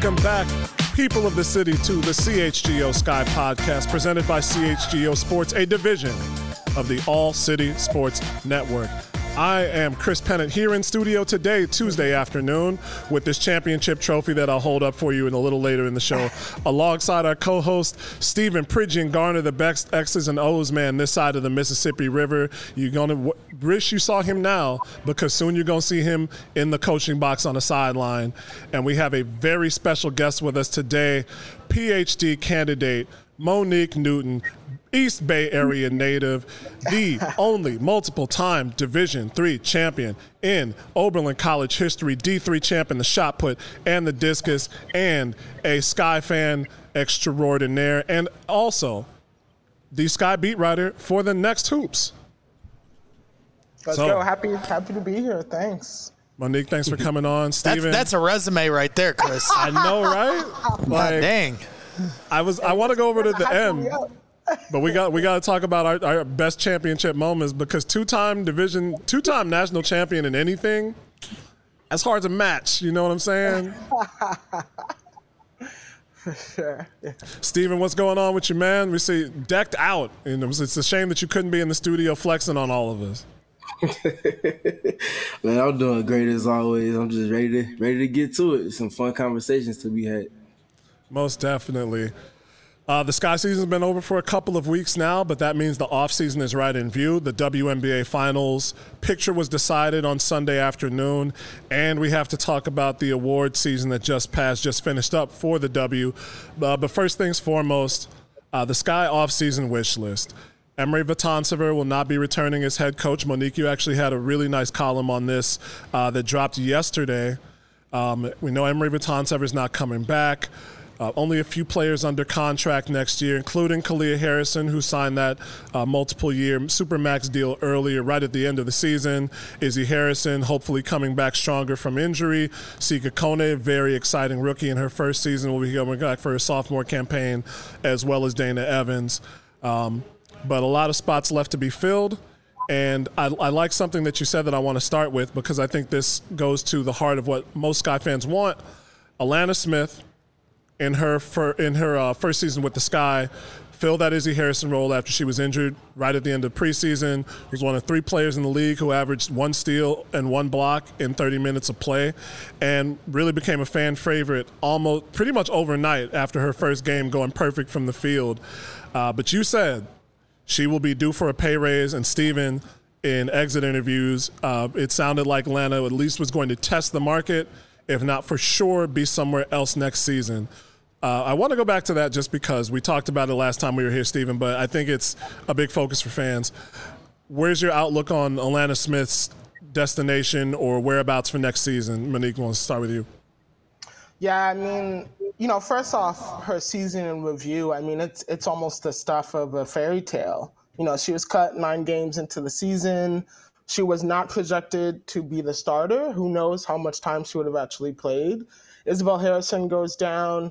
Welcome back, people of the city, to the CHGO Sky Podcast, presented by CHGO Sports, a division of the All City Sports Network. I am Chris Pennant here in studio today, Tuesday afternoon, with this championship trophy that I'll hold up for you a little later in the show, alongside our co-host, Stephen Pridgeon Garner, the best X's and O's man this side of the Mississippi River. You're going to wish you saw him now, because soon you're going to see him in the coaching box on the sideline. And we have a very special guest with us today, PhD candidate Monique Newton, East Bay Area native, the only multiple-time Division III champion in Oberlin College history, D3 champ in the shot put and the discus, and a Sky fan extraordinaire, and also the Sky beat writer for the Next Hoops. Let's go. Happy to be here. Thanks. Monique, thanks for coming on. Steven. That's a resume right there, Chris. I know, right? Like, dang. I want to go over to the end. But we got to talk about our best championship moments, because two-time national champion in anything, that's hard to match. You know what I'm saying? For sure. Yeah. Steven, what's going on with you, man? We see decked out. And it's a shame that you couldn't be in the studio flexing on all of us. Man, I'm doing great as always. I'm just ready to get to it. Some fun conversations to be had. Most definitely. The Sky season's been over for a couple of weeks now, but that means the offseason is right in view. The WNBA Finals picture was decided on Sunday afternoon, and we have to talk about the award season that just finished up for the W. But first things foremost, the Sky offseason wish list. Emery Vatansever will not be returning as head coach. Monique, you actually had a really nice column on this that dropped yesterday. We know Emery Vatansever is not coming back. Only a few players under contract next year, including Kalia Harrison, who signed that multiple-year Supermax deal earlier, right at the end of the season. Izzy Harrison, hopefully coming back stronger from injury. Sika Kone, very exciting rookie in her first season, will be coming back for her sophomore campaign, as well as Dana Evans. But a lot of spots left to be filled. And I like something that you said that I want to start with, because I think this goes to the heart of what most Sky fans want. Alana Smith, in her first season with the Sky, filled that Izzy Harrison role after she was injured right at the end of preseason. Was one of 3 players in the league who averaged 1 steal and 1 block in 30 minutes of play, and really became a fan favorite almost pretty much overnight after her first game going perfect from the field. But you said she will be due for a pay raise, and Steven, in exit interviews, it sounded like Atlanta at least was going to test the market, if not for sure be somewhere else next season. I want to go back to that just because we talked about it last time we were here, Steven, but I think it's a big focus for fans. Where's your outlook on Alana Smith's destination or whereabouts for next season? Monique, wants to start with you. Yeah, I mean, first off, her season in review, I mean, it's almost the stuff of a fairy tale. She was cut 9 games into the season. She was not projected to be the starter. Who knows how much time she would have actually played. Isabel Harrison goes down,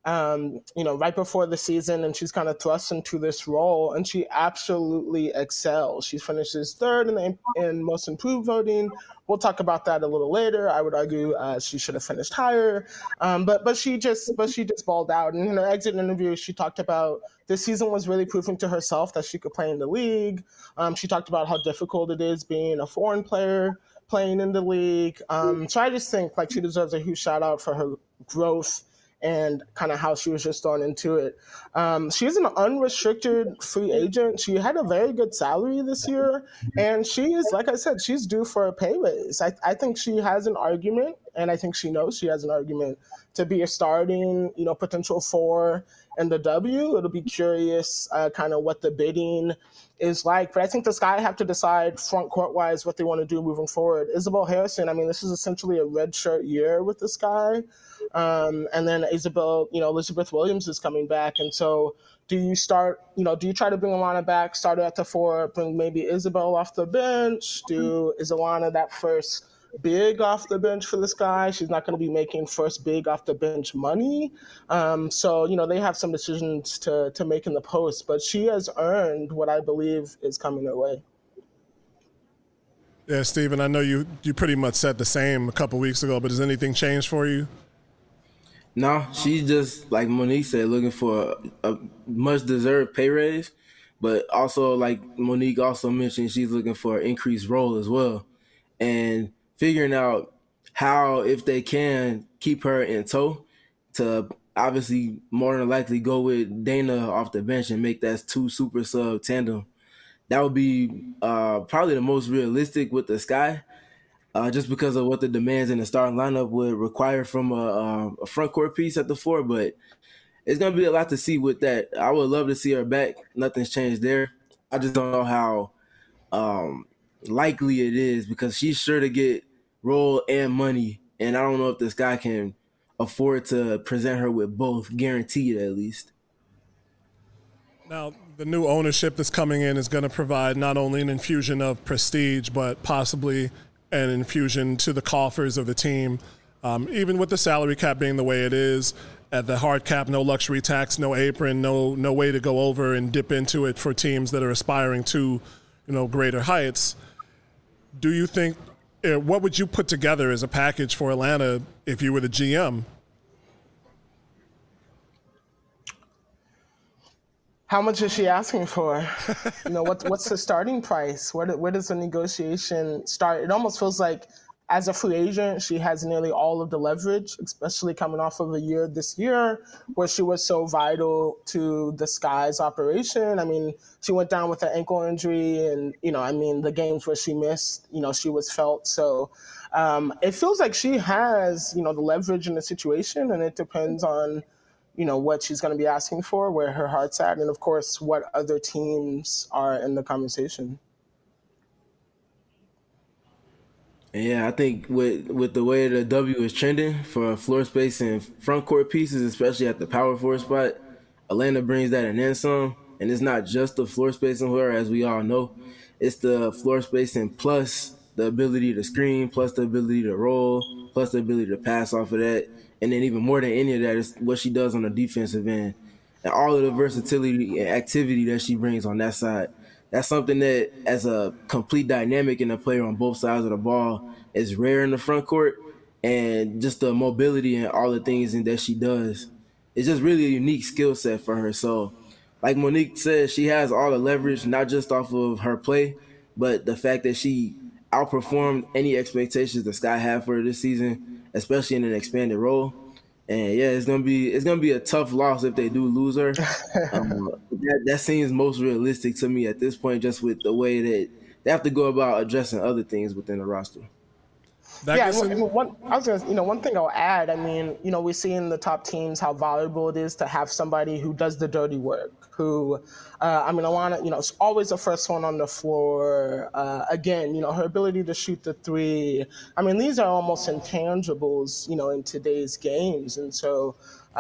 right before the season, and she's kind of thrust into this role, and she absolutely excels. She finishes 3rd in most improved voting. We'll talk about that a little later. I would argue she should have finished higher, but she just balled out. And in her exit interview, she talked about this season was really proving to herself that she could play in the league. She talked about how difficult it is being a foreign player playing in the league. So I just think she deserves a huge shout out for her growth and kind of how she was just thrown into it. She's an unrestricted free agent. She had a very good salary this year, and she is, like I said, she's due for a pay raise. I think she has an argument, and I think she knows she has an argument to be a starting, potential 4 in the W. It'll be curious kind of what the bidding is like. But I think the Sky have to decide front court-wise what they want to do moving forward. Isabel Harrison, I mean, this is essentially a redshirt year with the Sky. And then Elizabeth Williams is coming back. And so do you try to bring Alana back, start her at the 4, bring maybe Isabel off the bench? Is Alana that first big off the bench for the Sky? She's not going to be making first big off the bench money. So they have some decisions to make in the post, but she has earned what I believe is coming her way. Yeah, Steven, I know you pretty much said the same a couple weeks ago, but has anything changed for you? No, she's just like Monique said, looking for a much deserved pay raise, but also like Monique also mentioned, she's looking for an increased role as well, and figuring out how, if they can keep her in tow, to obviously more than likely go with Dana off the bench and make that two super sub tandem. That would be probably the most realistic with the Sky, just because of what the demands in the starting lineup would require from a front court piece at the four. But it's going to be a lot to see with that. I would love to see her back. Nothing's changed there. I just don't know how likely it is, because she's sure to get role and money. And I don't know if this guy can afford to present her with both, guaranteed at least. Now, the new ownership that's coming in is going to provide not only an infusion of prestige, but possibly an infusion to the coffers of the team. Even with the salary cap being the way it is, at the hard cap, no luxury tax, no apron, no way to go over and dip into it for teams that are aspiring to, greater heights. Do you think, what would you put together as a package for Atlanta if you were the GM? How much is she asking for? What's the starting price? Where does the negotiation start? It almost feels like as a free agent, she has nearly all of the leverage, especially coming off of a year this year where she was so vital to the Sky's operation. I mean, she went down with an ankle injury and, the games where she missed, she was felt. So it feels like she has, the leverage in the situation, and it depends on, what she's going to be asking for, where her heart's at, and of course, what other teams are in the conversation. Yeah, I think with the way the W is trending for floor space and front court pieces, especially at the power forward spot, Atlanta brings that and then some. And it's not just the floor spacing for her, as we all know. It's the floor spacing plus the ability to screen, plus the ability to roll, plus the ability to pass off of that. And then even more than any of that is what she does on the defensive end. And all of the versatility and activity that she brings on that side. That's something that, as a complete dynamic in a player on both sides of the ball, is rare in the front court. And just the mobility and all the things that she does, it's just really a unique skill set for her. So, like Monique said, she has all the leverage, not just off of her play, but the fact that she outperformed any expectations the Sky had for her this season, especially in an expanded role. And yeah, it's gonna be a tough loss if they do lose her. That seems most realistic to me at this point, just with the way that they have to go about addressing other things within the roster. One thing I'll add, we see in the top teams how valuable it is to have somebody who does the dirty work, who, Alana, is always the first one on the floor. Again, her ability to shoot the three. These are almost intangibles, in today's games. And so,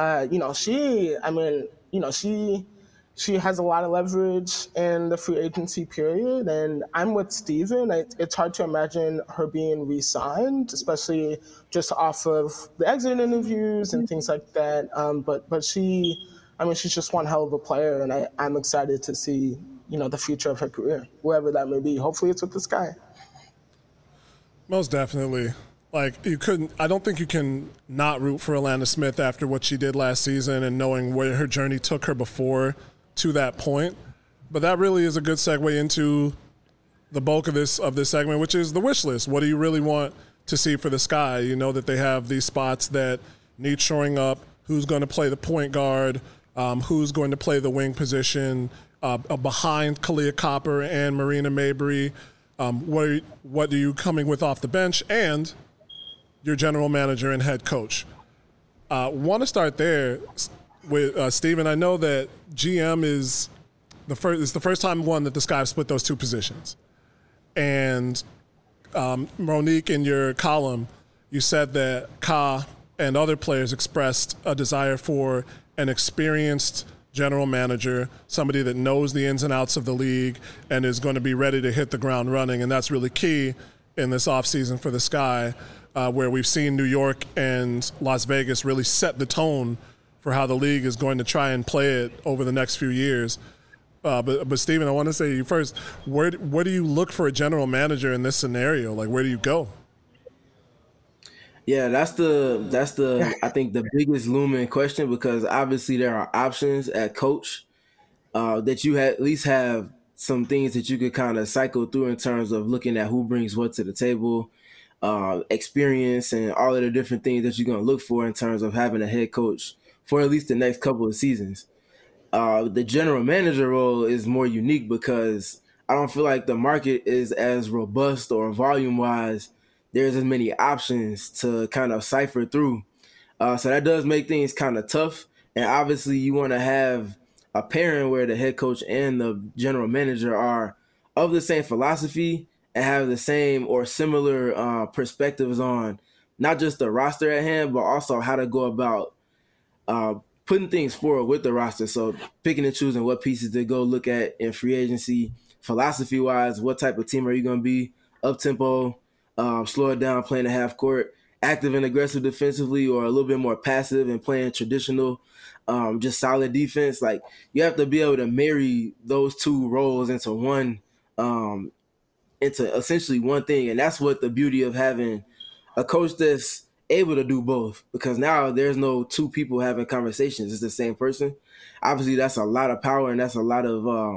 she has a lot of leverage in the free agency period, and I'm with Steven. It's hard to imagine her being re-signed, especially just off of the exit interviews and things like that. But she's just one hell of a player, and I'm excited to see, the future of her career, wherever that may be. Hopefully it's with the Sky. Most definitely. I don't think you can not root for Alana Smith after what she did last season and knowing where her journey took her before to that point. But that really is a good segue into the bulk of this segment, which is the wish list. What do you really want to see for the Sky? You know that they have these spots that need shoring up. Who's going to play the point guard? Who's going to play the wing position behind Kalia Copper and Marina Mabrey? What are you coming with off the bench? And your general manager and head coach. Want to start there with Steven. I know that GM is the first time that the Sky have split those two positions. And Monique, in your column, you said that Ka and other players expressed a desire for an experienced general manager, somebody that knows the ins and outs of the league and is going to be ready to hit the ground running. And that's really key in this offseason for the Sky, where we've seen New York and Las Vegas really set the tone for how the league is going to try and play it over the next few years. But Steven, I want to say to you first, where do you look for a general manager in this scenario? Where do you go? Yeah, that's the I think the biggest looming question, because obviously there are options at coach that you at least have some things that you could kind of cycle through in terms of looking at who brings what to the table, experience, and all of the different things that you're going to look for in terms of having a head coach for at least the next couple of seasons. The general manager role is more unique because I don't feel like the market is as robust or volume wise. There's as many options to kind of cipher through. So that does make things kind of tough. And obviously you want to have a pairing where the head coach and the general manager are of the same philosophy and have the same or similar perspectives on not just the roster at hand, but also how to go about putting things forward with the roster. So picking and choosing what pieces to go look at in free agency, philosophy-wise, what type of team are you going to be, up-tempo, slow it down, playing the half court, active and aggressive defensively, or a little bit more passive and playing traditional, just solid defense. Like, you have to be able to marry those two roles into one, into essentially one thing. And that's what the beauty of having a coach that's able to do both, because now there's no two people having conversations. It's the same person. Obviously, that's a lot of power, and that's a lot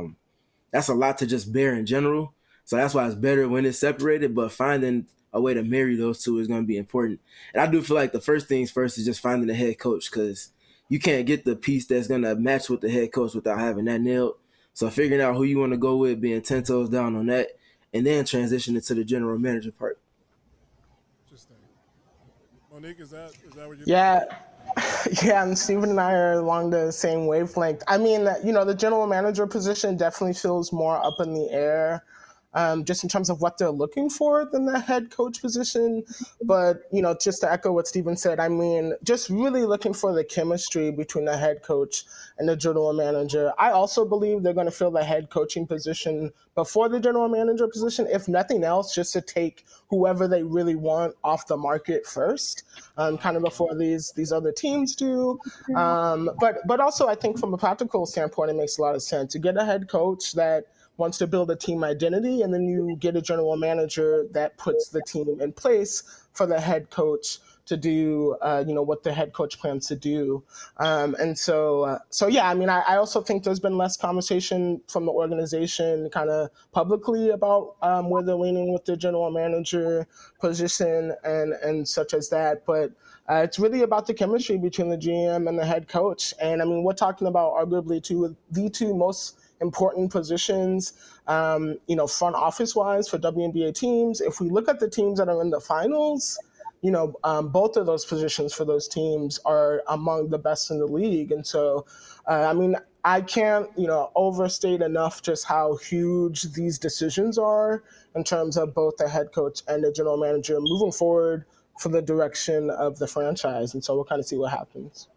to just bear in general. So that's why it's better when it's separated, but finding a way to marry those two is going to be important. And I do feel like the first things first is just finding the head coach, because you can't get the piece that's going to match with the head coach without having that nailed. So figuring out who you want to go with, being 10 toes down on that, and then transitioning to the general manager part. Interesting. Monique, is that what you Yeah. Yeah, and Steven and I are along the same wavelength. I mean, the general manager position definitely feels more up in the air, just in terms of what they're looking for than the head coach position. But, just to echo what Steven said, I mean, just really looking for the chemistry between the head coach and the general manager. I also believe they're going to fill the head coaching position before the general manager position, if nothing else, just to take whoever they really want off the market first, kind of before these other teams do. But also, I think from a practical standpoint, it makes a lot of sense to get a head coach that wants to build a team identity, and then you get a general manager that puts the team in place for the head coach to do, what the head coach plans to do. Yeah, I mean, I also think there's been less conversation from the organization kind of publicly about where they're leaning with the general manager position and such as that. But it's really about the chemistry between the GM and the head coach. And I mean, we're talking about arguably the two most important positions, front office wise for WNBA teams. If we look at the teams that are in the finals, both of those positions for those teams are among the best in the league. And so, I mean, I can't, overstate enough just how huge these decisions are in terms of both the head coach and the general manager moving forward for the direction of the franchise. And so we'll kind of see what happens.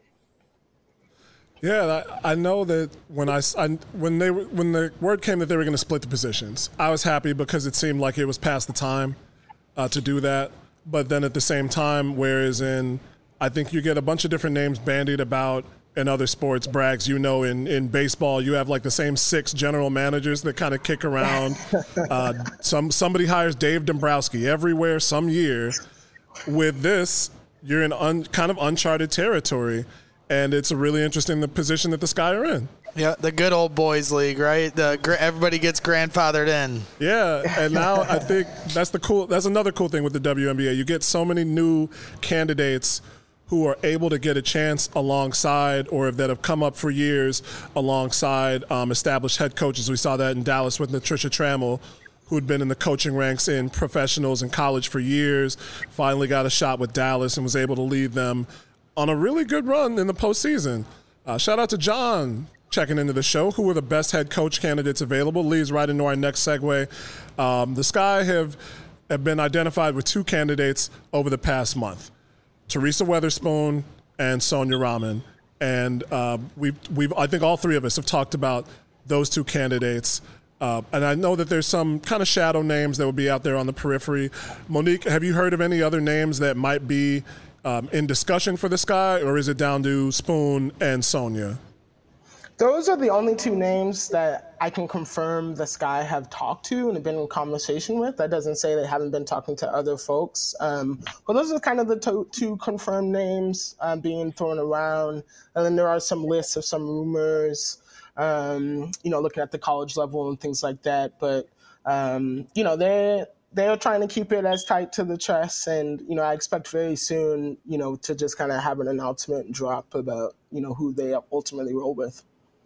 Yeah, I know that when the word came that they were going to split the positions, I was happy because it seemed like it was past the time to do that. But then at the same time, I think you get a bunch of different names bandied about in other sports. Braggs, in baseball, you have like the same 6 general managers that kind of kick around. Somebody hires Dave Dombrowski everywhere some year. With this, you're in kind of uncharted territory. And it's a really interesting position that the Sky are in. Yeah, the good old boys league, right? Everybody gets grandfathered in. Yeah, and now I think that's another cool thing with the WNBA. You get so many new candidates who are able to get a chance alongside, or that have come up for years alongside established head coaches. We saw that in Dallas with Patricia Trammell, who had been in the coaching ranks in professionals in college for years, finally got a shot with Dallas and was able to lead them on a really good run in the postseason. Shout out to John checking into the show. Who were the best head coach candidates available? Leads right into our next segue. The Sky have been identified with 2 candidates over the past month: Teresa Weatherspoon and Sonia Rahman. And I think all 3 of us have talked about those 2 candidates. And I know that there's some kind of shadow names that will be out there on the periphery. Monique, have you heard of any other names that might be in discussion for the Sky, or is it down to Spoon and Sonia? Those are the only two names that I can confirm the Sky have talked to and have been in conversation with. That doesn't say they haven't been talking to other folks. But those are kind of the two confirmed names being thrown around. And then there are some lists of some rumors, looking at the college level and things like that. But, they're trying to keep it as tight to the chest. And, I expect very soon, to just kind of have an announcement drop about, who they ultimately roll with.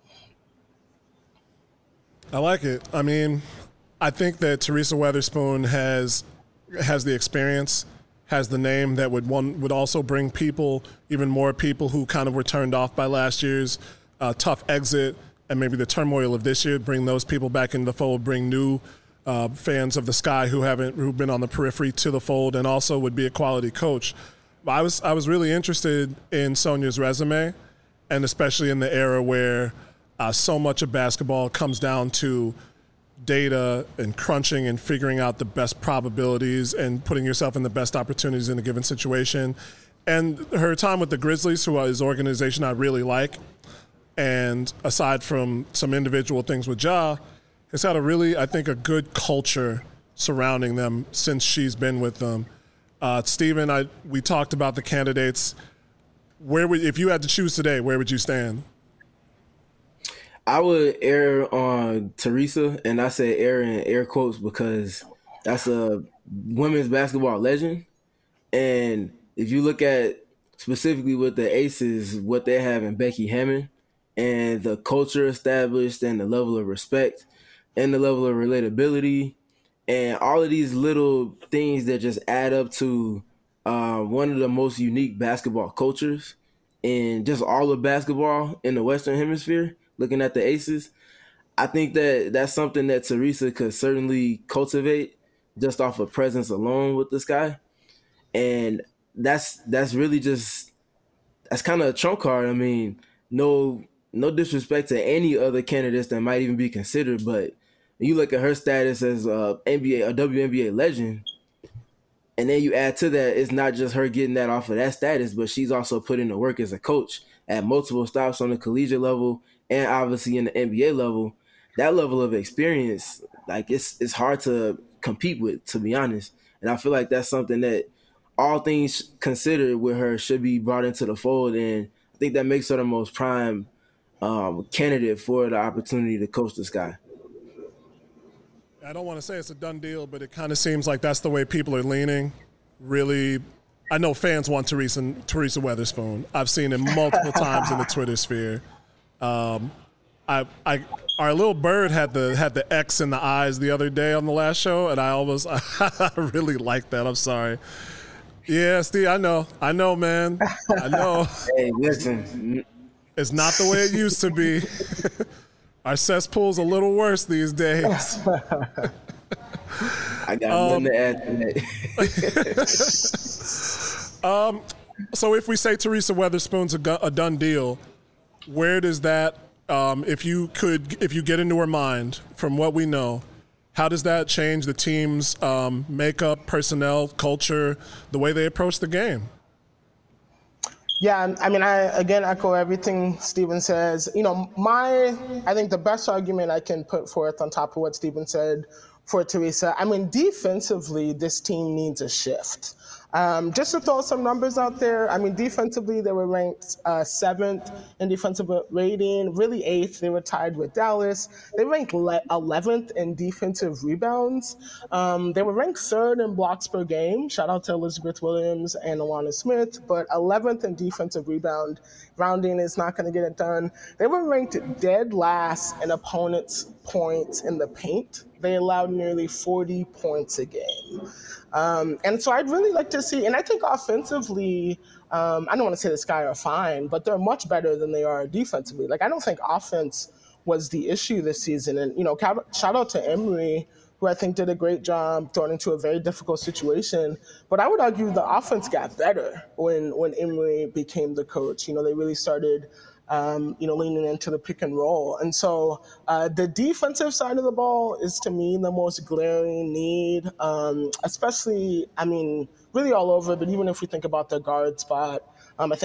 I like it. I mean, I think that Teresa Weatherspoon has the experience, has the name that would also bring even more people who kind of were turned off by last year's tough exit and maybe the turmoil of this year, bring those people back into the fold, bring new fans of the Sky who've been on the periphery to the fold, and also would be a quality coach. I was really interested in Sonia's resume, and especially in the era where so much of basketball comes down to data and crunching and figuring out the best probabilities and putting yourself in the best opportunities in a given situation. And her time with the Grizzlies, who is an organization I really like, and aside from some individual things with Ja, has had a good culture surrounding them since she's been with them. Stephen, we talked about the candidates. If you had to choose today, where would you stand? I would err on Teresa, and I say err in air quotes because that's a women's basketball legend. And if you look at specifically with the Aces, what they have in Becky Hammon and the culture established and the level of respect and the level of relatability and all of these little things that just add up to one of the most unique basketball cultures in just all of basketball in the Western Hemisphere, looking at the Aces, I think that's something that Teresa could certainly cultivate just off of presence alone with this guy. And that's really just, that's kind of a trump card. I mean, no disrespect to any other candidates that might even be considered, but you look at her status as a WNBA legend, and then you add to that, it's not just her getting that off of that status, but she's also put in the work as a coach at multiple stops on the collegiate level and obviously in the NBA level. That level of experience, like it's hard to compete with, to be honest. And I feel like that's something that all things considered with her should be brought into the fold. And I think that makes her the most prime candidate for the opportunity to coach this guy. I don't want to say it's a done deal, but it kind of seems like that's the way people are leaning. Really, I know fans want Teresa Weatherspoon. I've seen it multiple times in the Twitter sphere. Our little bird had the X in the eyes the other day on the last show, and I really liked that. I'm sorry. Yeah, Steve, I know, man. I know. Hey, listen. It's not the way it used to be. Our cesspool's a little worse these days. I got nothing to add to that. So if we say Teresa Weatherspoon's a done deal, where does that, if you get into her mind from what we know, how does that change the team's makeup, personnel, culture, the way they approach the game? Yeah, I mean, I again echo everything Stephen says. I think the best argument I can put forth on top of what Stephen said for Teresa, I mean, defensively, this team needs a shift. Just to throw some numbers out there, I mean, defensively, they were ranked 7th in defensive rating, really 8th. They were tied with Dallas. They ranked 11th in defensive rebounds. They were ranked 3rd in blocks per game. Shout out to Elizabeth Williams and Alana Smith, but 11th in defensive rebound. Rounding is not going to get it done. They were ranked dead last in opponents' points in the paint. They allowed nearly 40 points a game. And so I'd really like to see, and I think offensively, I don't want to say the Sky are fine, but they're much better than they are defensively. Like, I don't think offense was the issue this season. And, shout out to Emory, who I think did a great job thrown into a very difficult situation. But I would argue the offense got better when Emory became the coach. They really started leaning into the pick and roll. And so the defensive side of the ball is, to me, the most glaring need, especially, I mean, really all over. But even if we think about the guard spot, I think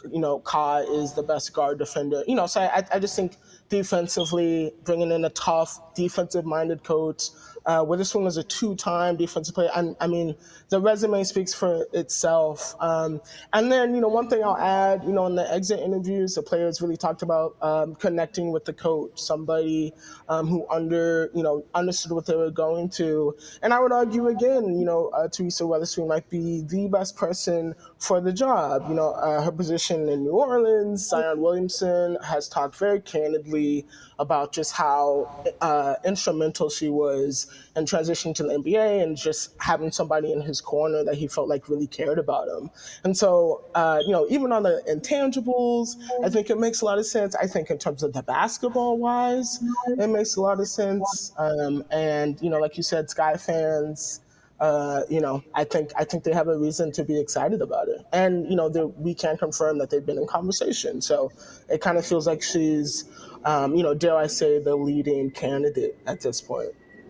Ka is the best guard defender. So I just think defensively, bringing in a tough, defensive-minded coach. Witherspoon was a 2-time defensive player. I mean, the resume speaks for itself. And then, one thing I'll add, in the exit interviews, the players really talked about connecting with the coach, somebody who understood what they were going to. And I would argue again, Teresa Weatherspoon might be the best person for the job. Her position in New Orleans, Zion Williamson has talked very candidly about just how instrumental she was in transitioning to the NBA and just having somebody in his corner that he felt like really cared about him. And so, even on the intangibles, I think it makes a lot of sense. I think in terms of the basketball-wise, it makes a lot of sense. And, like you said, Sky fans, I think they have a reason to be excited about it. And, we can confirm that they've been in conversation. So it kind of feels like she's, dare I say, the leading candidate at this point.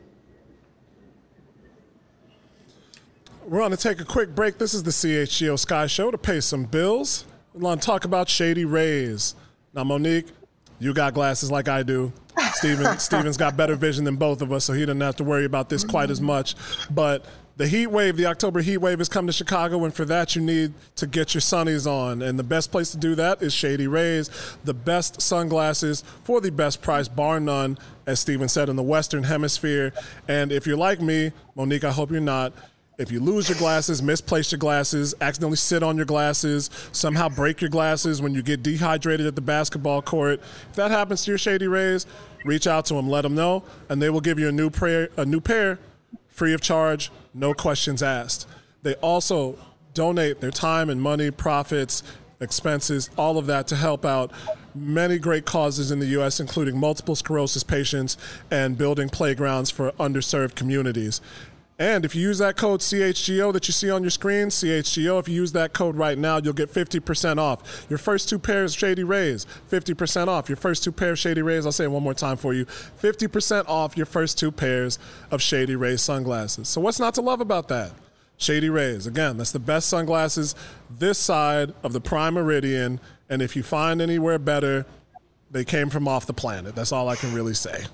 We're going to take a quick break. This is the CHGO Sky Show to pay some bills. We're going to talk about Shady Rays. Now, Monique, you got glasses like I do. Steven's got better vision than both of us, so he doesn't have to worry about this quite as much. But the heat wave, the October heat wave has come to Chicago, and for that you need to get your sunnies on. And the best place to do that is Shady Rays, the best sunglasses for the best price, bar none, as Steven said, in the Western Hemisphere. And if you're like me, Monique, I hope you're not, if you lose your glasses, misplace your glasses, accidentally sit on your glasses, somehow break your glasses when you get dehydrated at the basketball court, if that happens to your Shady Rays, reach out to them, let them know, and they will give you a new pair free of charge, no questions asked. They also donate their time and money, profits, expenses, all of that to help out many great causes in the U.S., including multiple sclerosis patients and building playgrounds for underserved communities. And if you use that code CHGO that you see on your screen, CHGO, if you use that code right now, you'll get 50% off. Your first 2 pairs of Shady Rays, 50% off. Your first 2 pairs of Shady Rays, I'll say it one more time for you, 50% off your first 2 pairs of Shady Rays sunglasses. So what's not to love about that? Shady Rays, again, that's the best sunglasses this side of the Prime Meridian. And if you find anywhere better, they came from off the planet. That's all I can really say.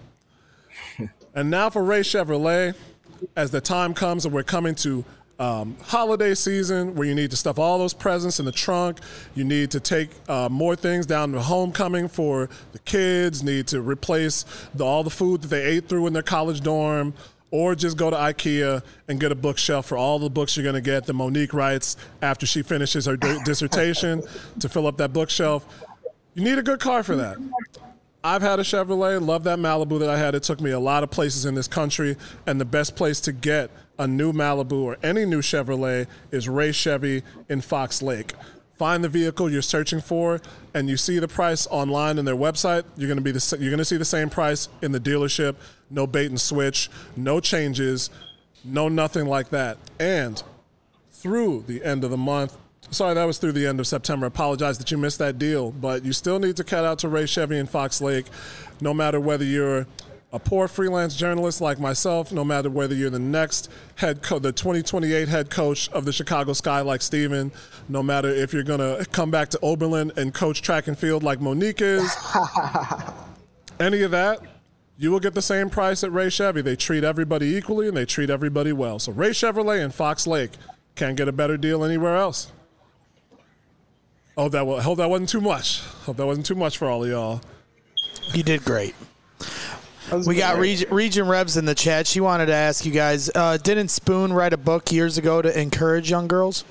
And now for Ray Chevrolet. As the time comes and we're coming to holiday season where you need to stuff all those presents in the trunk, you need to take more things down to homecoming for the kids, need to replace all the food that they ate through in their college dorm, or just go to IKEA and get a bookshelf for all the books you're going to get that Monique writes after she finishes her dissertation to fill up that bookshelf. You need a good car for that. I've had a Chevrolet, love that Malibu that I had. It took me a lot of places in this country, and the best place to get a new Malibu or any new Chevrolet is Ray Chevy in Fox Lake. Find the vehicle you're searching for, and you see the price online in their website. You're going to see the same price in the dealership. No bait and switch, no changes, no nothing like that. And through the end of the month, sorry, that was through the end of September. I apologize that you missed that deal, but you still need to cut out to Ray Chevy in Fox Lake, no matter whether you're a poor freelance journalist like myself, no matter whether you're the next the 2028 head coach of the Chicago Sky like Steven, no matter if you're going to come back to Oberlin and coach track and field like Monique is, any of that, you will get the same price at Ray Chevy. They treat everybody equally and they treat everybody well. So Ray Chevrolet in Fox Lake, can't get a better deal anywhere else. Hope that wasn't too much. Hope that wasn't too much for all of y'all. You did great. We got Region Revs in the chat. She wanted to ask you guys, didn't Spoon write a book years ago to encourage young girls?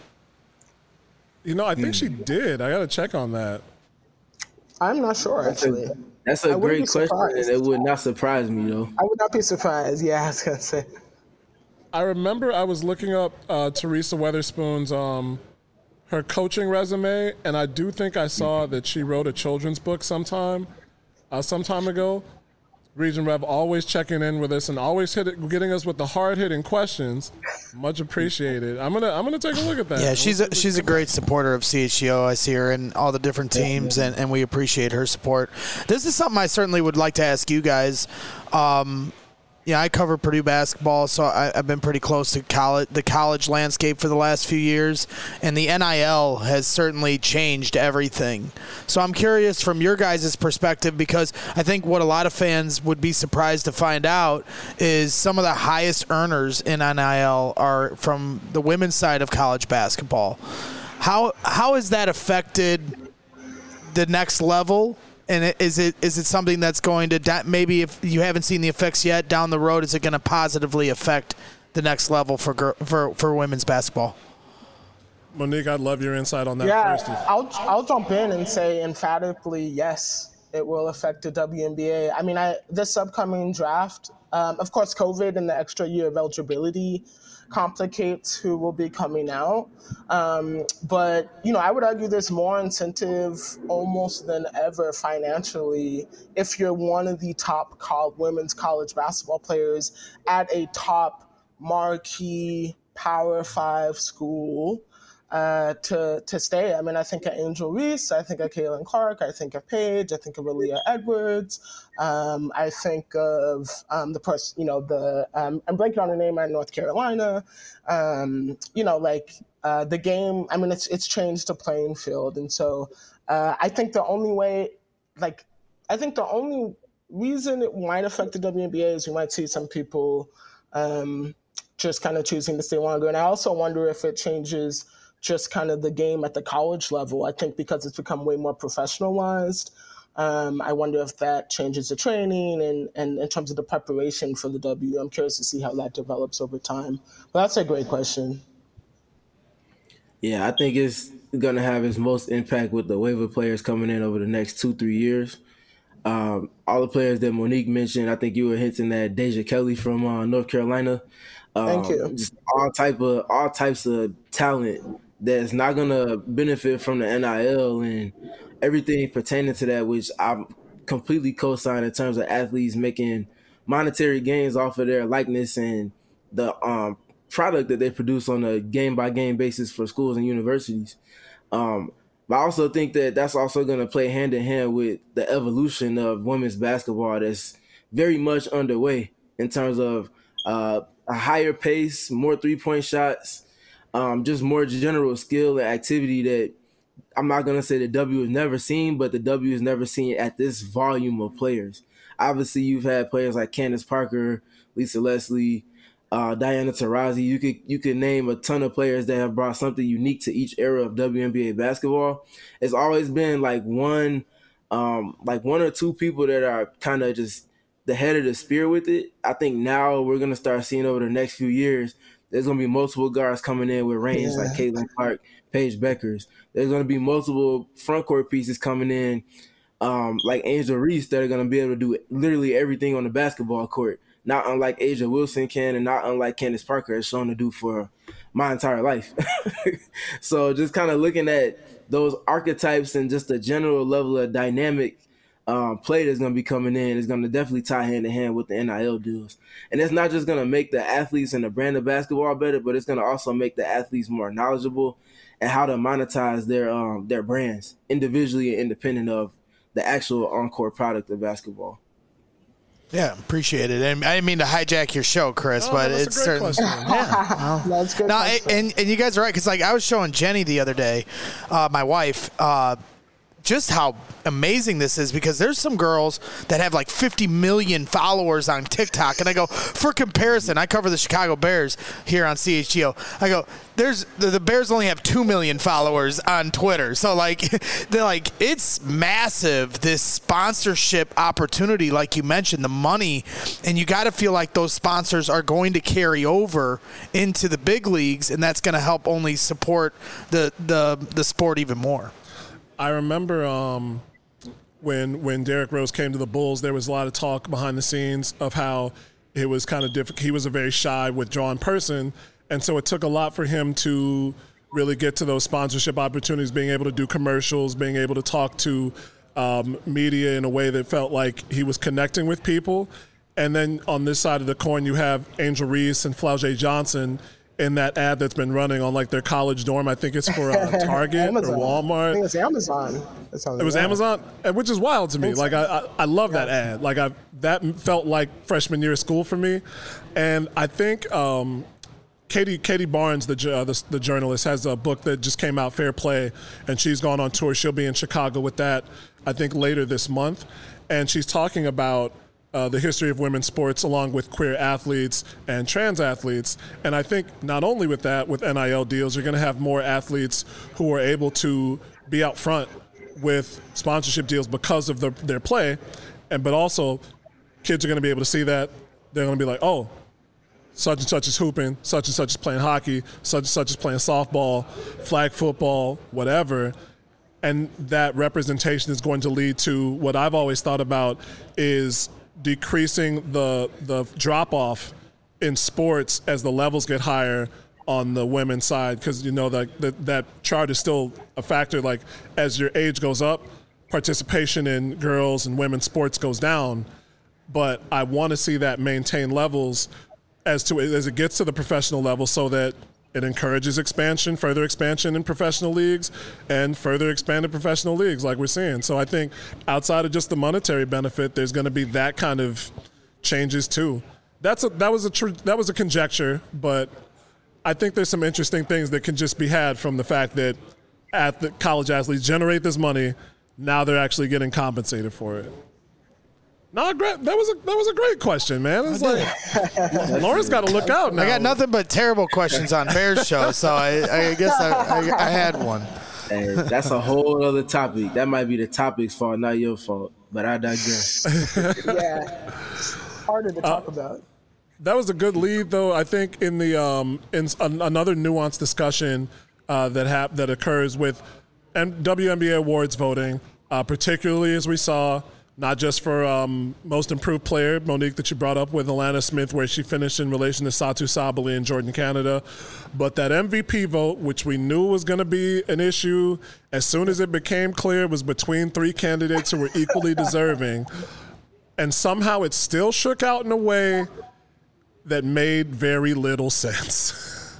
I think she did. I got to check on that. I'm not sure, actually. That's a great question, and it would not surprise me, though. I would not be surprised. Yeah, I was going to say. I remember I was looking up Teresa Weatherspoon's her coaching resume, and I do think I saw that she wrote a children's book some time ago. Region Rev always checking in with us and always getting us with the hard-hitting questions. Much appreciated. I'm gonna take a look at that. Yeah, she's a great supporter of CHGO. I see her in all the different teams, and we appreciate her support. This is something I certainly would like to ask you guys. Yeah, I cover Purdue basketball, so I've been pretty close to the college landscape for the last few years, and the NIL has certainly changed everything. So I'm curious from your guys' perspective, because I think what a lot of fans would be surprised to find out is some of the highest earners in NIL are from the women's side of college basketball. How has that affected the next level? And is it something that's going to, maybe if you haven't seen the effects yet, down the road, is it going to positively affect the next level for women's basketball? Monique, I'd love your insight on that first. Yeah, I'll jump in and say emphatically yes, it will affect the WNBA. I mean, this upcoming draft, of course, COVID and the extra year of eligibility complicates who will be coming out. But, I would argue there's more incentive almost than ever financially if you're one of the top women's college basketball players at a top marquee Power 5 school to stay. I mean, I think of Angel Reese, I think of Caitlin Clark, I think of Paige, I think of Aaliyah Edwards, I think of the person, I'm blanking on the name at North Carolina. The game, I mean, it's changed the playing field. And so I think the only reason it might affect the WNBA is we might see some people just kind of choosing to stay longer. And I also wonder if it changes just kind of the game at the college level. I think because it's become way more professionalized, I wonder if that changes the training and in terms of the preparation for the W. I'm curious to see how that develops over time. But that's a great question. Yeah, I think it's going to have its most impact with the wave of players coming in over the next 2-3 years. All the players that Monique mentioned, I think you were hinting at Deja Kelly from North Carolina. Thank you. Just all types of talent that's not going to benefit from the NIL and everything pertaining to that, which I'm completely co-sign in terms of athletes making monetary gains off of their likeness and the product that they produce on a game-by-game basis for schools and universities. But I also think that that's also going to play hand-in-hand with the evolution of women's basketball that's very much underway in terms of a higher pace, more three-point shots, just more general skill and activity that I'm not going to say the W has never seen, but the W has never seen at this volume of players. Obviously, you've had players like Candace Parker, Lisa Leslie, Diana Taurasi. You could name a ton of players that have brought something unique to each era of WNBA basketball. It's always been like one or two people that are kind of just the head of the spear with it. I think now we're going to start seeing over the next few years, there's going to be multiple guards coming in with range like Caitlin Clark, Paige Beckers. There's going to be multiple front court pieces coming in like Angel Reese that are going to be able to do literally everything on the basketball court, not unlike Asia Wilson can and not unlike Candace Parker has shown to do for my entire life. So just kind of looking at those archetypes and just the general level of dynamic play that's going to be coming in is going to definitely tie hand in hand with the NIL deals. And it's not just going to make the athletes and the brand of basketball better, but it's going to also make the athletes more knowledgeable and how to monetize their brands individually and independent of the actual on-court product of basketball. Yeah, appreciate it. And I didn't mean to hijack your show, Chris, but it's certain. Yeah, that's good. No, and you guys are right, because I was showing Jenny the other day, my wife, just how amazing this is, because there's some girls that have like 50 million followers on TikTok. And I go, for comparison, I cover the Chicago Bears here on CHGO. I go, the Bears only have 2 million followers on Twitter. So they're like, it's massive, this sponsorship opportunity, like you mentioned, the money. And you got to feel like those sponsors are going to carry over into the big leagues, and that's going to help only support the sport even more. I remember when Derrick Rose came to the Bulls, there was a lot of talk behind the scenes of how it was kind of difficult. He was a very shy, withdrawn person, and so it took a lot for him to really get to those sponsorship opportunities, being able to do commercials, being able to talk to media in a way that felt like he was connecting with people. And then on this side of the coin, you have Angel Reese and Flau'jae Johnson in that ad that's been running on like their college dorm. I think it's for Target or Walmart. I think it's Amazon. It was Amazon, which is wild to me. Like I love that ad. Like that felt like freshman year of school for me, and I think Katie Barnes, the journalist, has a book that just came out, Fair Play, and she's gone on tour. She'll be in Chicago with that, I think, later this month, and she's talking about the history of women's sports along with queer athletes and trans athletes. And I think not only with that, with NIL deals, you're going to have more athletes who are able to be out front with sponsorship deals because of their play. But also kids are going to be able to see that. They're going to be like, oh, such and such is hooping, such and such is playing hockey, such and such is playing softball, flag football, whatever. And that representation is going to lead to what I've always thought about is decreasing the drop-off in sports as the levels get higher on the women's side, because that chart is still a factor. Like as your age goes up, participation in girls and women's sports goes down, but I want to see that maintain levels as it gets to the professional level, so that it encourages further expansion in professional leagues and further expanded professional leagues like we're seeing. So I think outside of just the monetary benefit, there's going to be that kind of changes too. That was a conjecture, but I think there's some interesting things that can just be had from the fact that the college athletes generate this money. Now they're actually getting compensated for it. No, that was a great question, man. It's like Lawrence got to look out now. I got nothing but terrible questions on Bears show, so I guess I had one. Hey, that's a whole other topic. That might be the topic's fault, not your fault. But I digress. Yeah, harder to talk about. That was a good lead, though. I think in the another nuanced discussion that occurs with WNBA awards voting, particularly as we saw. Not just for most improved player, Monique, that you brought up with Alana Smith, where she finished in relation to Satu Sabally and Jordan Canada. But that MVP vote, which we knew was going to be an issue, as soon as it became clear it was between three candidates who were equally deserving. And somehow it still shook out in a way that made very little sense.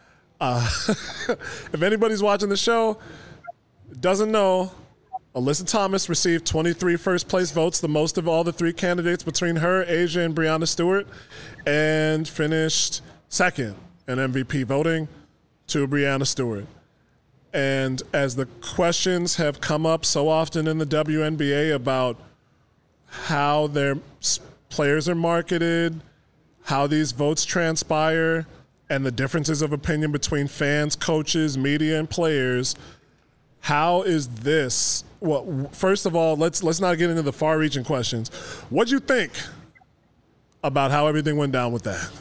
If anybody's watching the show, doesn't know, Alyssa Thomas received 23 first-place votes, the most of all the three candidates between her, Asia, and Breanna Stewart, and finished second in MVP voting to Breanna Stewart. And as the questions have come up so often in the WNBA about how their players are marketed, how these votes transpire, and the differences of opinion between fans, coaches, media, and players, how is this? Well, first of all, let's not get into the far-reaching questions. What'd you think about how everything went down with that?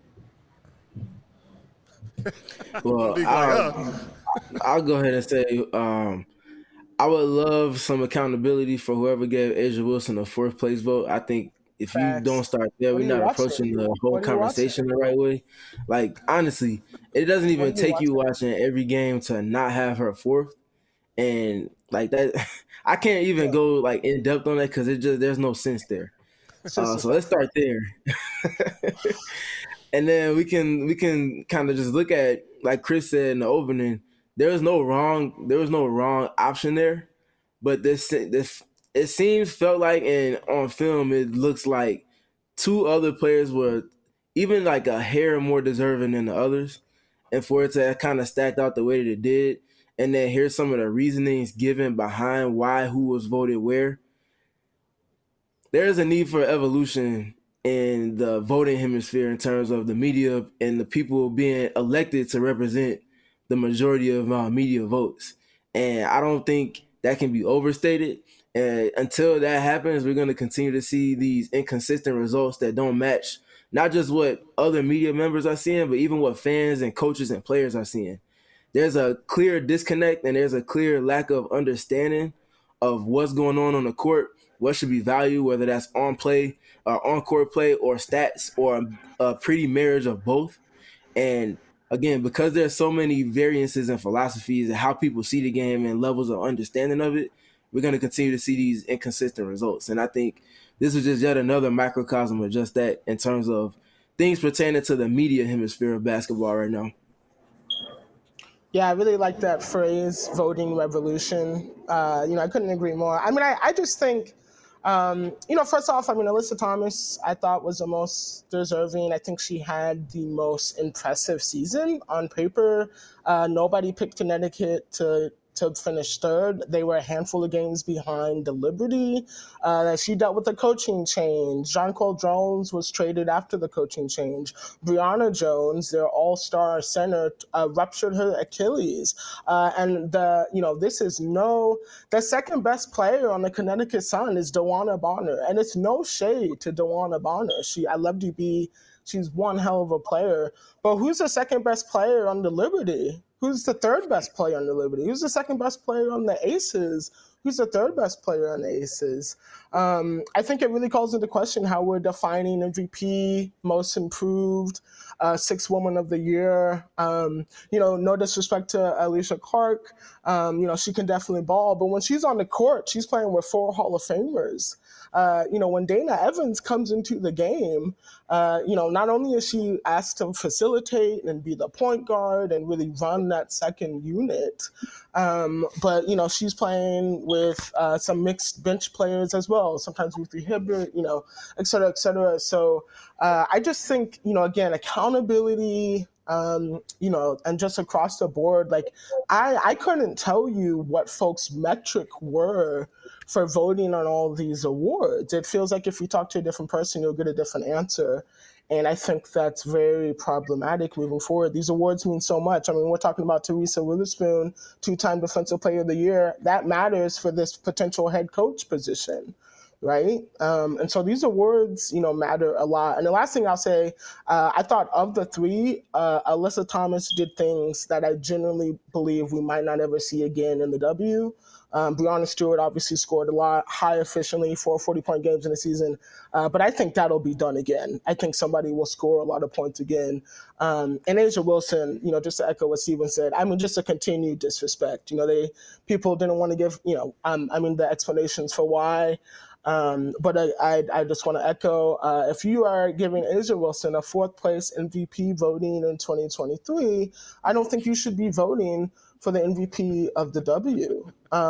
Well, I'll go ahead and say I would love some accountability for whoever gave Asia Wilson a fourth place vote. I think if you don't start there, we're not approaching the whole conversation the right way. Like, honestly, it doesn't even take you watching every game to not have her fourth. And like that, I can't even go like in depth on that because there's no sense there. So let's start there, and then we can kind of just look at, like Chris said in the opening, there was no wrong option there, but this it felt like, and on film it looks like two other players were even like a hair more deserving than the others, and for it to kind of stacked out the way that it did. And then here's some of the reasonings given behind who was voted where. There's a need for evolution in the voting hemisphere in terms of the media and the people being elected to represent the majority of media votes. And I don't think that can be overstated. And until that happens, we're going to continue to see these inconsistent results that don't match not just what other media members are seeing, but even what fans and coaches and players are seeing. There's a clear disconnect and there's a clear lack of understanding of what's going on the court, what should be valued, whether that's on court play or stats or a pretty marriage of both. And again, because there's so many variances and philosophies and how people see the game and levels of understanding of it, we're going to continue to see these inconsistent results. And I think this is just yet another microcosm of just that in terms of things pertaining to the media hemisphere of basketball right now. Yeah, I really like that phrase, voting revolution. I couldn't agree more. I mean, I just think, first off, I mean, Alyssa Thomas, I thought was the most deserving. I think she had the most impressive season on paper. Nobody picked Connecticut to finish third. They were a handful of games behind the Liberty. She dealt with the coaching change. Jonquel Jones was traded after the coaching change. Brianna Jones, their all-star center, ruptured her Achilles. The second best player on the Connecticut Sun is DeWanna Bonner. And it's no shade to DeWanna Bonner. I love DB. She's one hell of a player. But who's the second best player on the Liberty? Who's the third best player on the Liberty? Who's the second best player on the Aces? Who's the third best player on the Aces? I think it really calls into question how we're defining MVP, most improved, sixth woman of the year. No disrespect to Alicia Clark. She can definitely ball. But when she's on the court, she's playing with 4 Hall of Famers. When Dana Evans comes into the game, not only is she asked to facilitate and be the point guard and really run that second unit, but she's playing with some mixed bench players as well, sometimes Ruthie Hibbert, et cetera, et cetera. So I just think, again, accountability, and just across the board, like I couldn't tell you what folks' metric were for voting on all these awards. It feels like if you talk to a different person, you'll get a different answer. And I think that's very problematic moving forward. These awards mean so much. I mean, we're talking about Teresa Witherspoon, 2-time Defensive Player of the Year. That matters for this potential head coach position, right? And so these awards, matter a lot. And the last thing I'll say, I thought of the 3, Alyssa Thomas did things that I genuinely believe we might not ever see again in the W. Breanna Stewart obviously scored a lot, high efficiently, 4 40-point games in the season. But I think that'll be done again. I think somebody will score a lot of points again. And Asia Wilson, just to echo what Steven said, I mean, just a continued disrespect. People didn't want to give, the explanations for why. But I just want to echo, if you are giving Asia Wilson a 4th place MVP voting in 2023, I don't think you should be voting for the MVP of the W.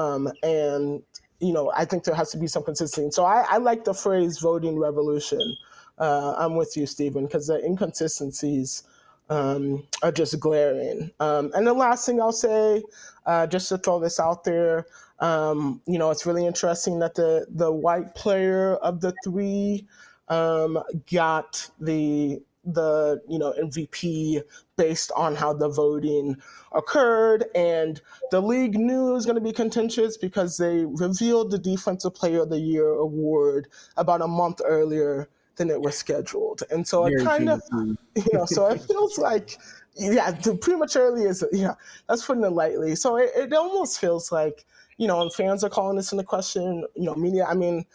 I think there has to be some consistency. So I like the phrase voting revolution. I'm with you, Stephen, because the inconsistencies are just glaring. And the last thing I'll say, just to throw this out there, it's really interesting that the white player of the 3 got the MVP based on how the voting occurred. And the league knew it was going to be contentious because they revealed the Defensive Player of the Year award about a month earlier than it was scheduled. And so it kind of, so it feels like, prematurely is, that's putting it lightly. So it almost feels like, and fans are calling this into question, media. I mean,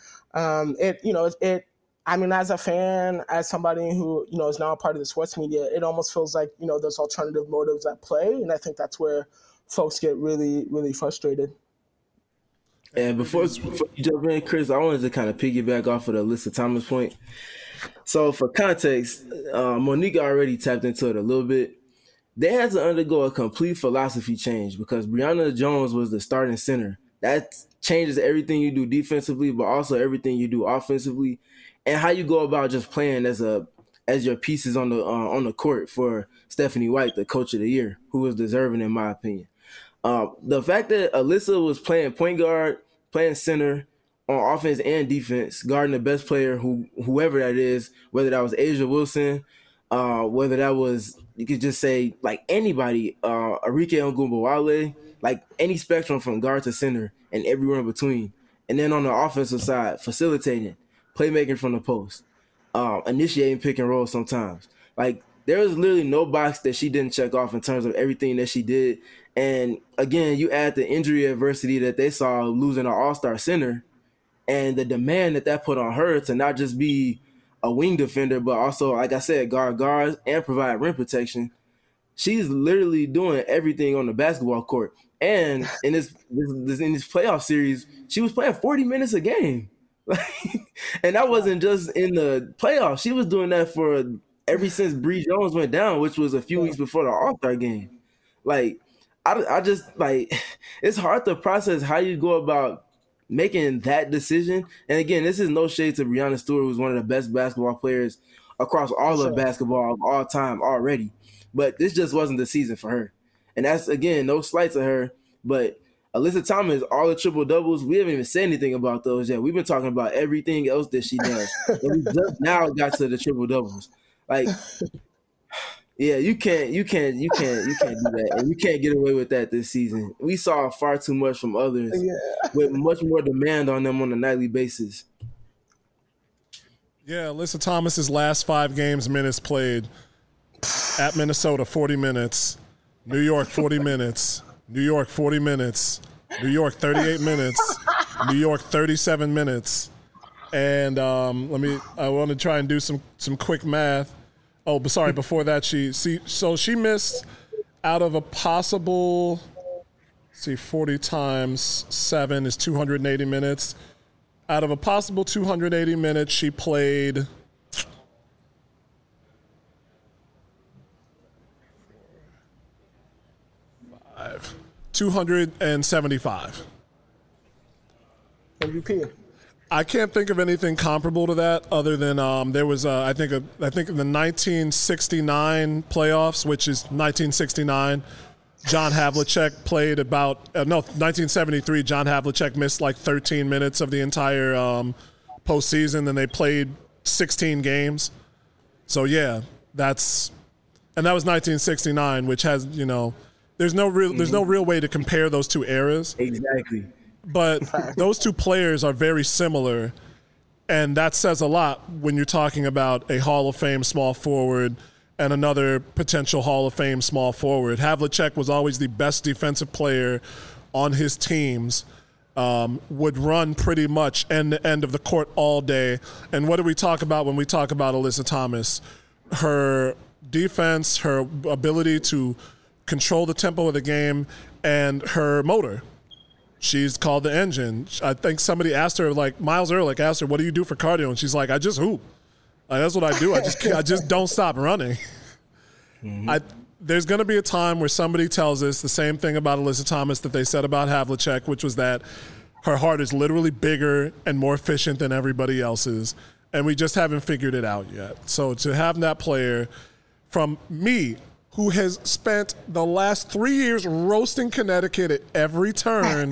as a fan, as somebody who, is now a part of the sports media, it almost feels like, there's alternative motives at play. And I think that's where folks get really, really frustrated. And before you jump in, Chris, I wanted to kind of piggyback off of the Alyssa Thomas point. So for context, Monique already tapped into it a little bit. They had to undergo a complete philosophy change because Brianna Jones was the starting center. That changes everything you do defensively, but also everything you do offensively, and how you go about just playing as your pieces on the court for Stephanie White, the Coach of the Year, who was deserving in my opinion. The fact that Alyssa was playing point guard, playing center on offense and defense, guarding the best player, whoever that is, whether that was Asia Wilson, whether that was, you could just say like anybody, Arike Ogunbowale, like any spectrum from guard to center and everywhere in between. And then on the offensive side, facilitating, playmaking from the post, initiating pick and roll sometimes. Like there was literally no box that she didn't check off in terms of everything that she did. And again, you add the injury adversity that they saw losing an all-star center and the demand that put on her to not just be a wing defender, but also, like I said, guards and provide rim protection. She's literally doing everything on the basketball court. And in this playoff series, she was playing 40 minutes a game. And that wasn't just in the playoffs. She was doing that ever since Bree Jones went down, which was a few weeks before the All-Star game. Like, I just like it's hard to process how you go about making that decision. And again, this is no shade to Breanna Stewart, who's one of the best basketball players across all of basketball of all time already. But this just wasn't the season for her. And that's, again, no slight to her. But Alyssa Thomas, all the triple doubles, we haven't even said anything about those yet. We've been talking about everything else that she does. And we just now got to the triple doubles. Like, yeah, you can't do that, and you can't get away with that this season. We saw far too much from others with much more demand on them on a nightly basis. Yeah, Alyssa Thomas's last 5 games minutes played at Minnesota 40 minutes, New York 40 minutes, New York 40 minutes, New York 38 minutes, New York 37 minutes, and I want to try and do some quick math. Oh, but sorry, before that, she missed out of a possible, 40 times 7 is 280 minutes. Out of a possible 280 minutes, she played 275. MVP. I can't think of anything comparable to that other than there was I think in the 1969 playoffs, which is 1969. John Havlicek played about 1973. John Havlicek missed like 13 minutes of the entire postseason, and they played 16 games. So yeah, that was 1969, which has there's no real way to compare those two eras. Exactly. But those two players are very similar, and that says a lot when you're talking about a Hall of Fame small forward and another potential Hall of Fame small forward. Havlicek was always the best defensive player on his teams, would run pretty much end to end of the court all day. And what do we talk about when we talk about Alyssa Thomas? Her defense, her ability to control the tempo of the game, and her motor. She's called the engine. I think somebody asked her, like Miles Ehrlich asked her, what do you do for cardio? And she's like, I just hoop. Like, that's what I do. I just don't stop running. Mm-hmm. There's going to be a time where somebody tells us the same thing about Alyssa Thomas that they said about Havlicek, which was that her heart is literally bigger and more efficient than everybody else's. And we just haven't figured it out yet. So to have that player from me, who has spent the last 3 years roasting Connecticut at every turn,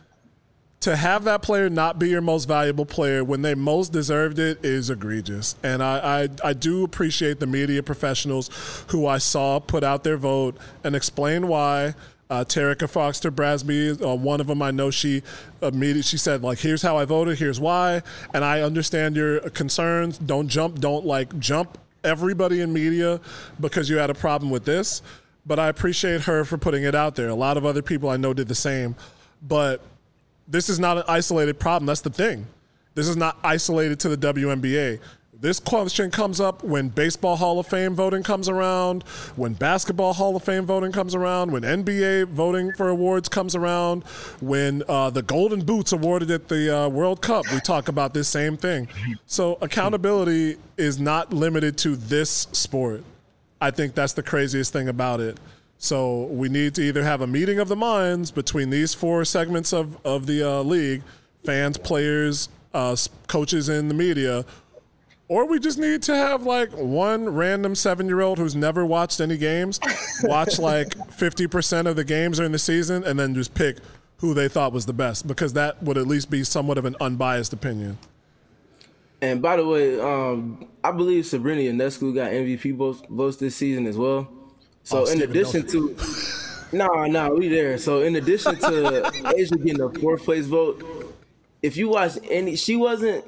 to have that player not be your most valuable player when they most deserved it is egregious. And I do appreciate the media professionals who I saw put out their vote and explain why. Terica Foster-Brasby, one of them, I know she said, like, here's how I voted, here's why, and I understand your concerns. Don't jump everybody in media because you had a problem with this, but I appreciate her for putting it out there. A lot of other people I know did the same, but this is not an isolated problem. That's the thing. This is not isolated to the WNBA. This question comes up when Baseball Hall of Fame voting comes around, when Basketball Hall of Fame voting comes around, when NBA voting for awards comes around, when the Golden Boots awarded at the World Cup, we talk about this same thing. So accountability is not limited to this sport. I think that's the craziest thing about it. So we need to either have a meeting of the minds between these 4 segments of the league, fans, players, coaches, and the media, or we just need to have like one random 7-year-old who's never watched any games watch like 50% of the games during the season and then just pick who they thought was the best, because that would at least be somewhat of an unbiased opinion. And by the way, I believe Sabrina Ionescu got MVP votes this season as well. So in addition to we there. So in addition to Asia getting a 4th place vote, if you watch she wasn't.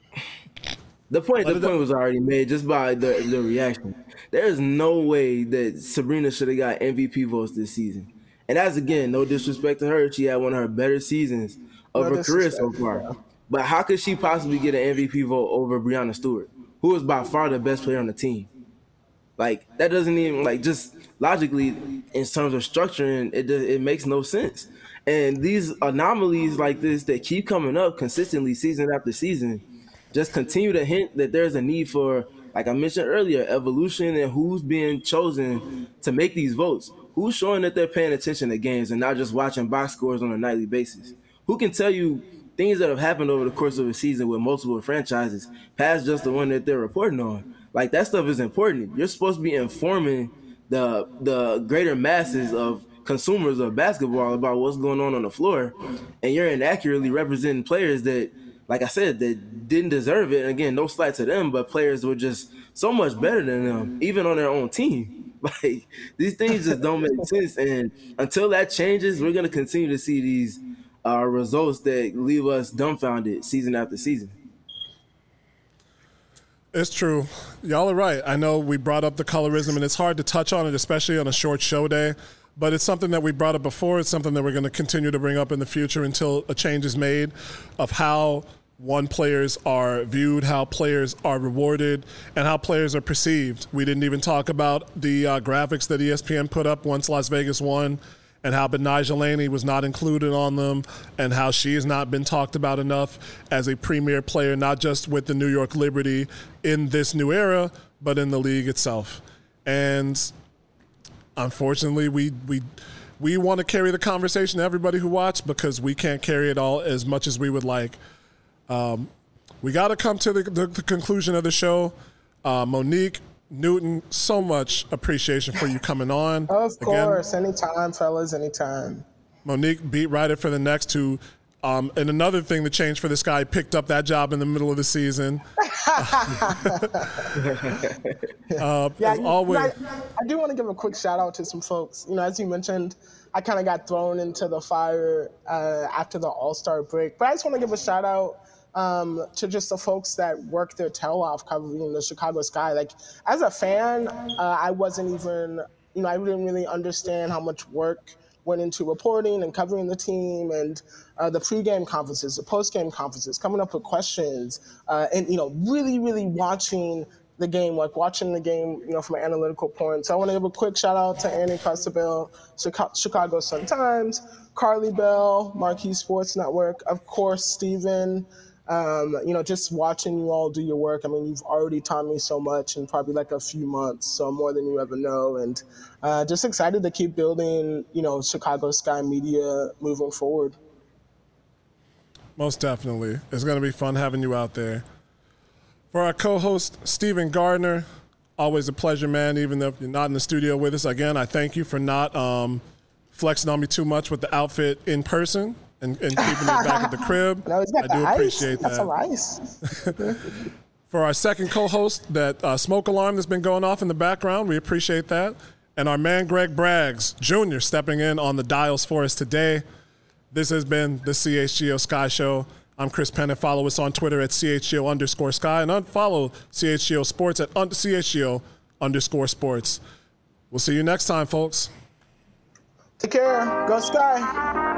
The point was already made just by the reaction. There is no way that Sabrina should have got MVP votes this season. And that's, again, no disrespect to her. She had one of her better seasons of her career so far. But how could she possibly get an MVP vote over Breanna Stewart, who is by far the best player on the team? Like, that doesn't even, like, just logically, in terms of structuring, it makes no sense. And these anomalies like this that keep coming up consistently season after season just continue to hint that there's a need for, like I mentioned earlier, evolution and who's being chosen to make these votes. who's showing that they're paying attention to games and not just watching box scores on a nightly basis? Who can tell you things that have happened over the course of a season with multiple franchises past just the one that they're reporting on? Like, that stuff is important. You're supposed to be informing the greater masses of consumers of basketball about what's going on the floor, and you're inaccurately representing players that, like I said, that didn't deserve it. And again, no slight to them, but players were just so much better than them, even on their own team. Like, these things just don't make sense. And until that changes, we're going to continue to see these results that leave us dumbfounded season after season. It's true. Y'all are right. I know we brought up the colorism, and it's hard to touch on it, especially on a short show day. But it's something that we brought up before. It's something that we're going to continue to bring up in the future until a change is made of how players are viewed, how players are rewarded, and how players are perceived. We didn't even talk about the graphics that ESPN put up once Las Vegas won, and how Betnijah Laney was not included on them, and how she has not been talked about enough as a premier player, not just with the New York Liberty in this new era, but in the league itself. And unfortunately, we want to carry the conversation to everybody who watched, because we can't carry it all as much as we would like. We got to come to the conclusion of the show. Monique Newton, so much appreciation for you coming on. Of course. Again, anytime, fellas, anytime. Monique, beat writer for The Next, who, and another thing that changed for this guy, picked up that job in the middle of the season. As always. I do want to give a quick shout out to some folks. You know, as you mentioned, I kind of got thrown into the fire after the All-Star break. But I just want to give a shout out to just the folks that worked their tail off covering the Chicago Sky. Like, as a fan, I wasn't even, I didn't really understand how much work went into reporting and covering the team, and the pregame conferences, the postgame conferences, coming up with questions, and, really, really watching the game, from an analytical point. So I want to give a quick shout out to Annie Cristobal, Chicago Sun-Times, Carly Bell, Marquee Sports Network, of course, Steven. Just watching you all do your work. I mean, you've already taught me so much in probably like a few months, so more than you ever know. And just excited to keep building, Chicago Sky Media moving forward. Most definitely. It's going to be fun having you out there. For our co-host, Stephen Gardner, always a pleasure, man, even though you're not in the studio with us. Again, I thank you for not flexing on me too much with the outfit in person. And keeping it back at the crib. No, I do appreciate that. That's a ice. For our second co-host, that smoke alarm that's been going off in the background, we appreciate that. And our man, Greg Braggs Jr., stepping in on the dials for us today. This has been the CHGO Sky Show. I'm Chris Penn. Follow us on Twitter at CHGO_Sky, and unfollow CHGO Sports at CHGO_Sports. We'll see you next time, folks. Take care. Go Sky.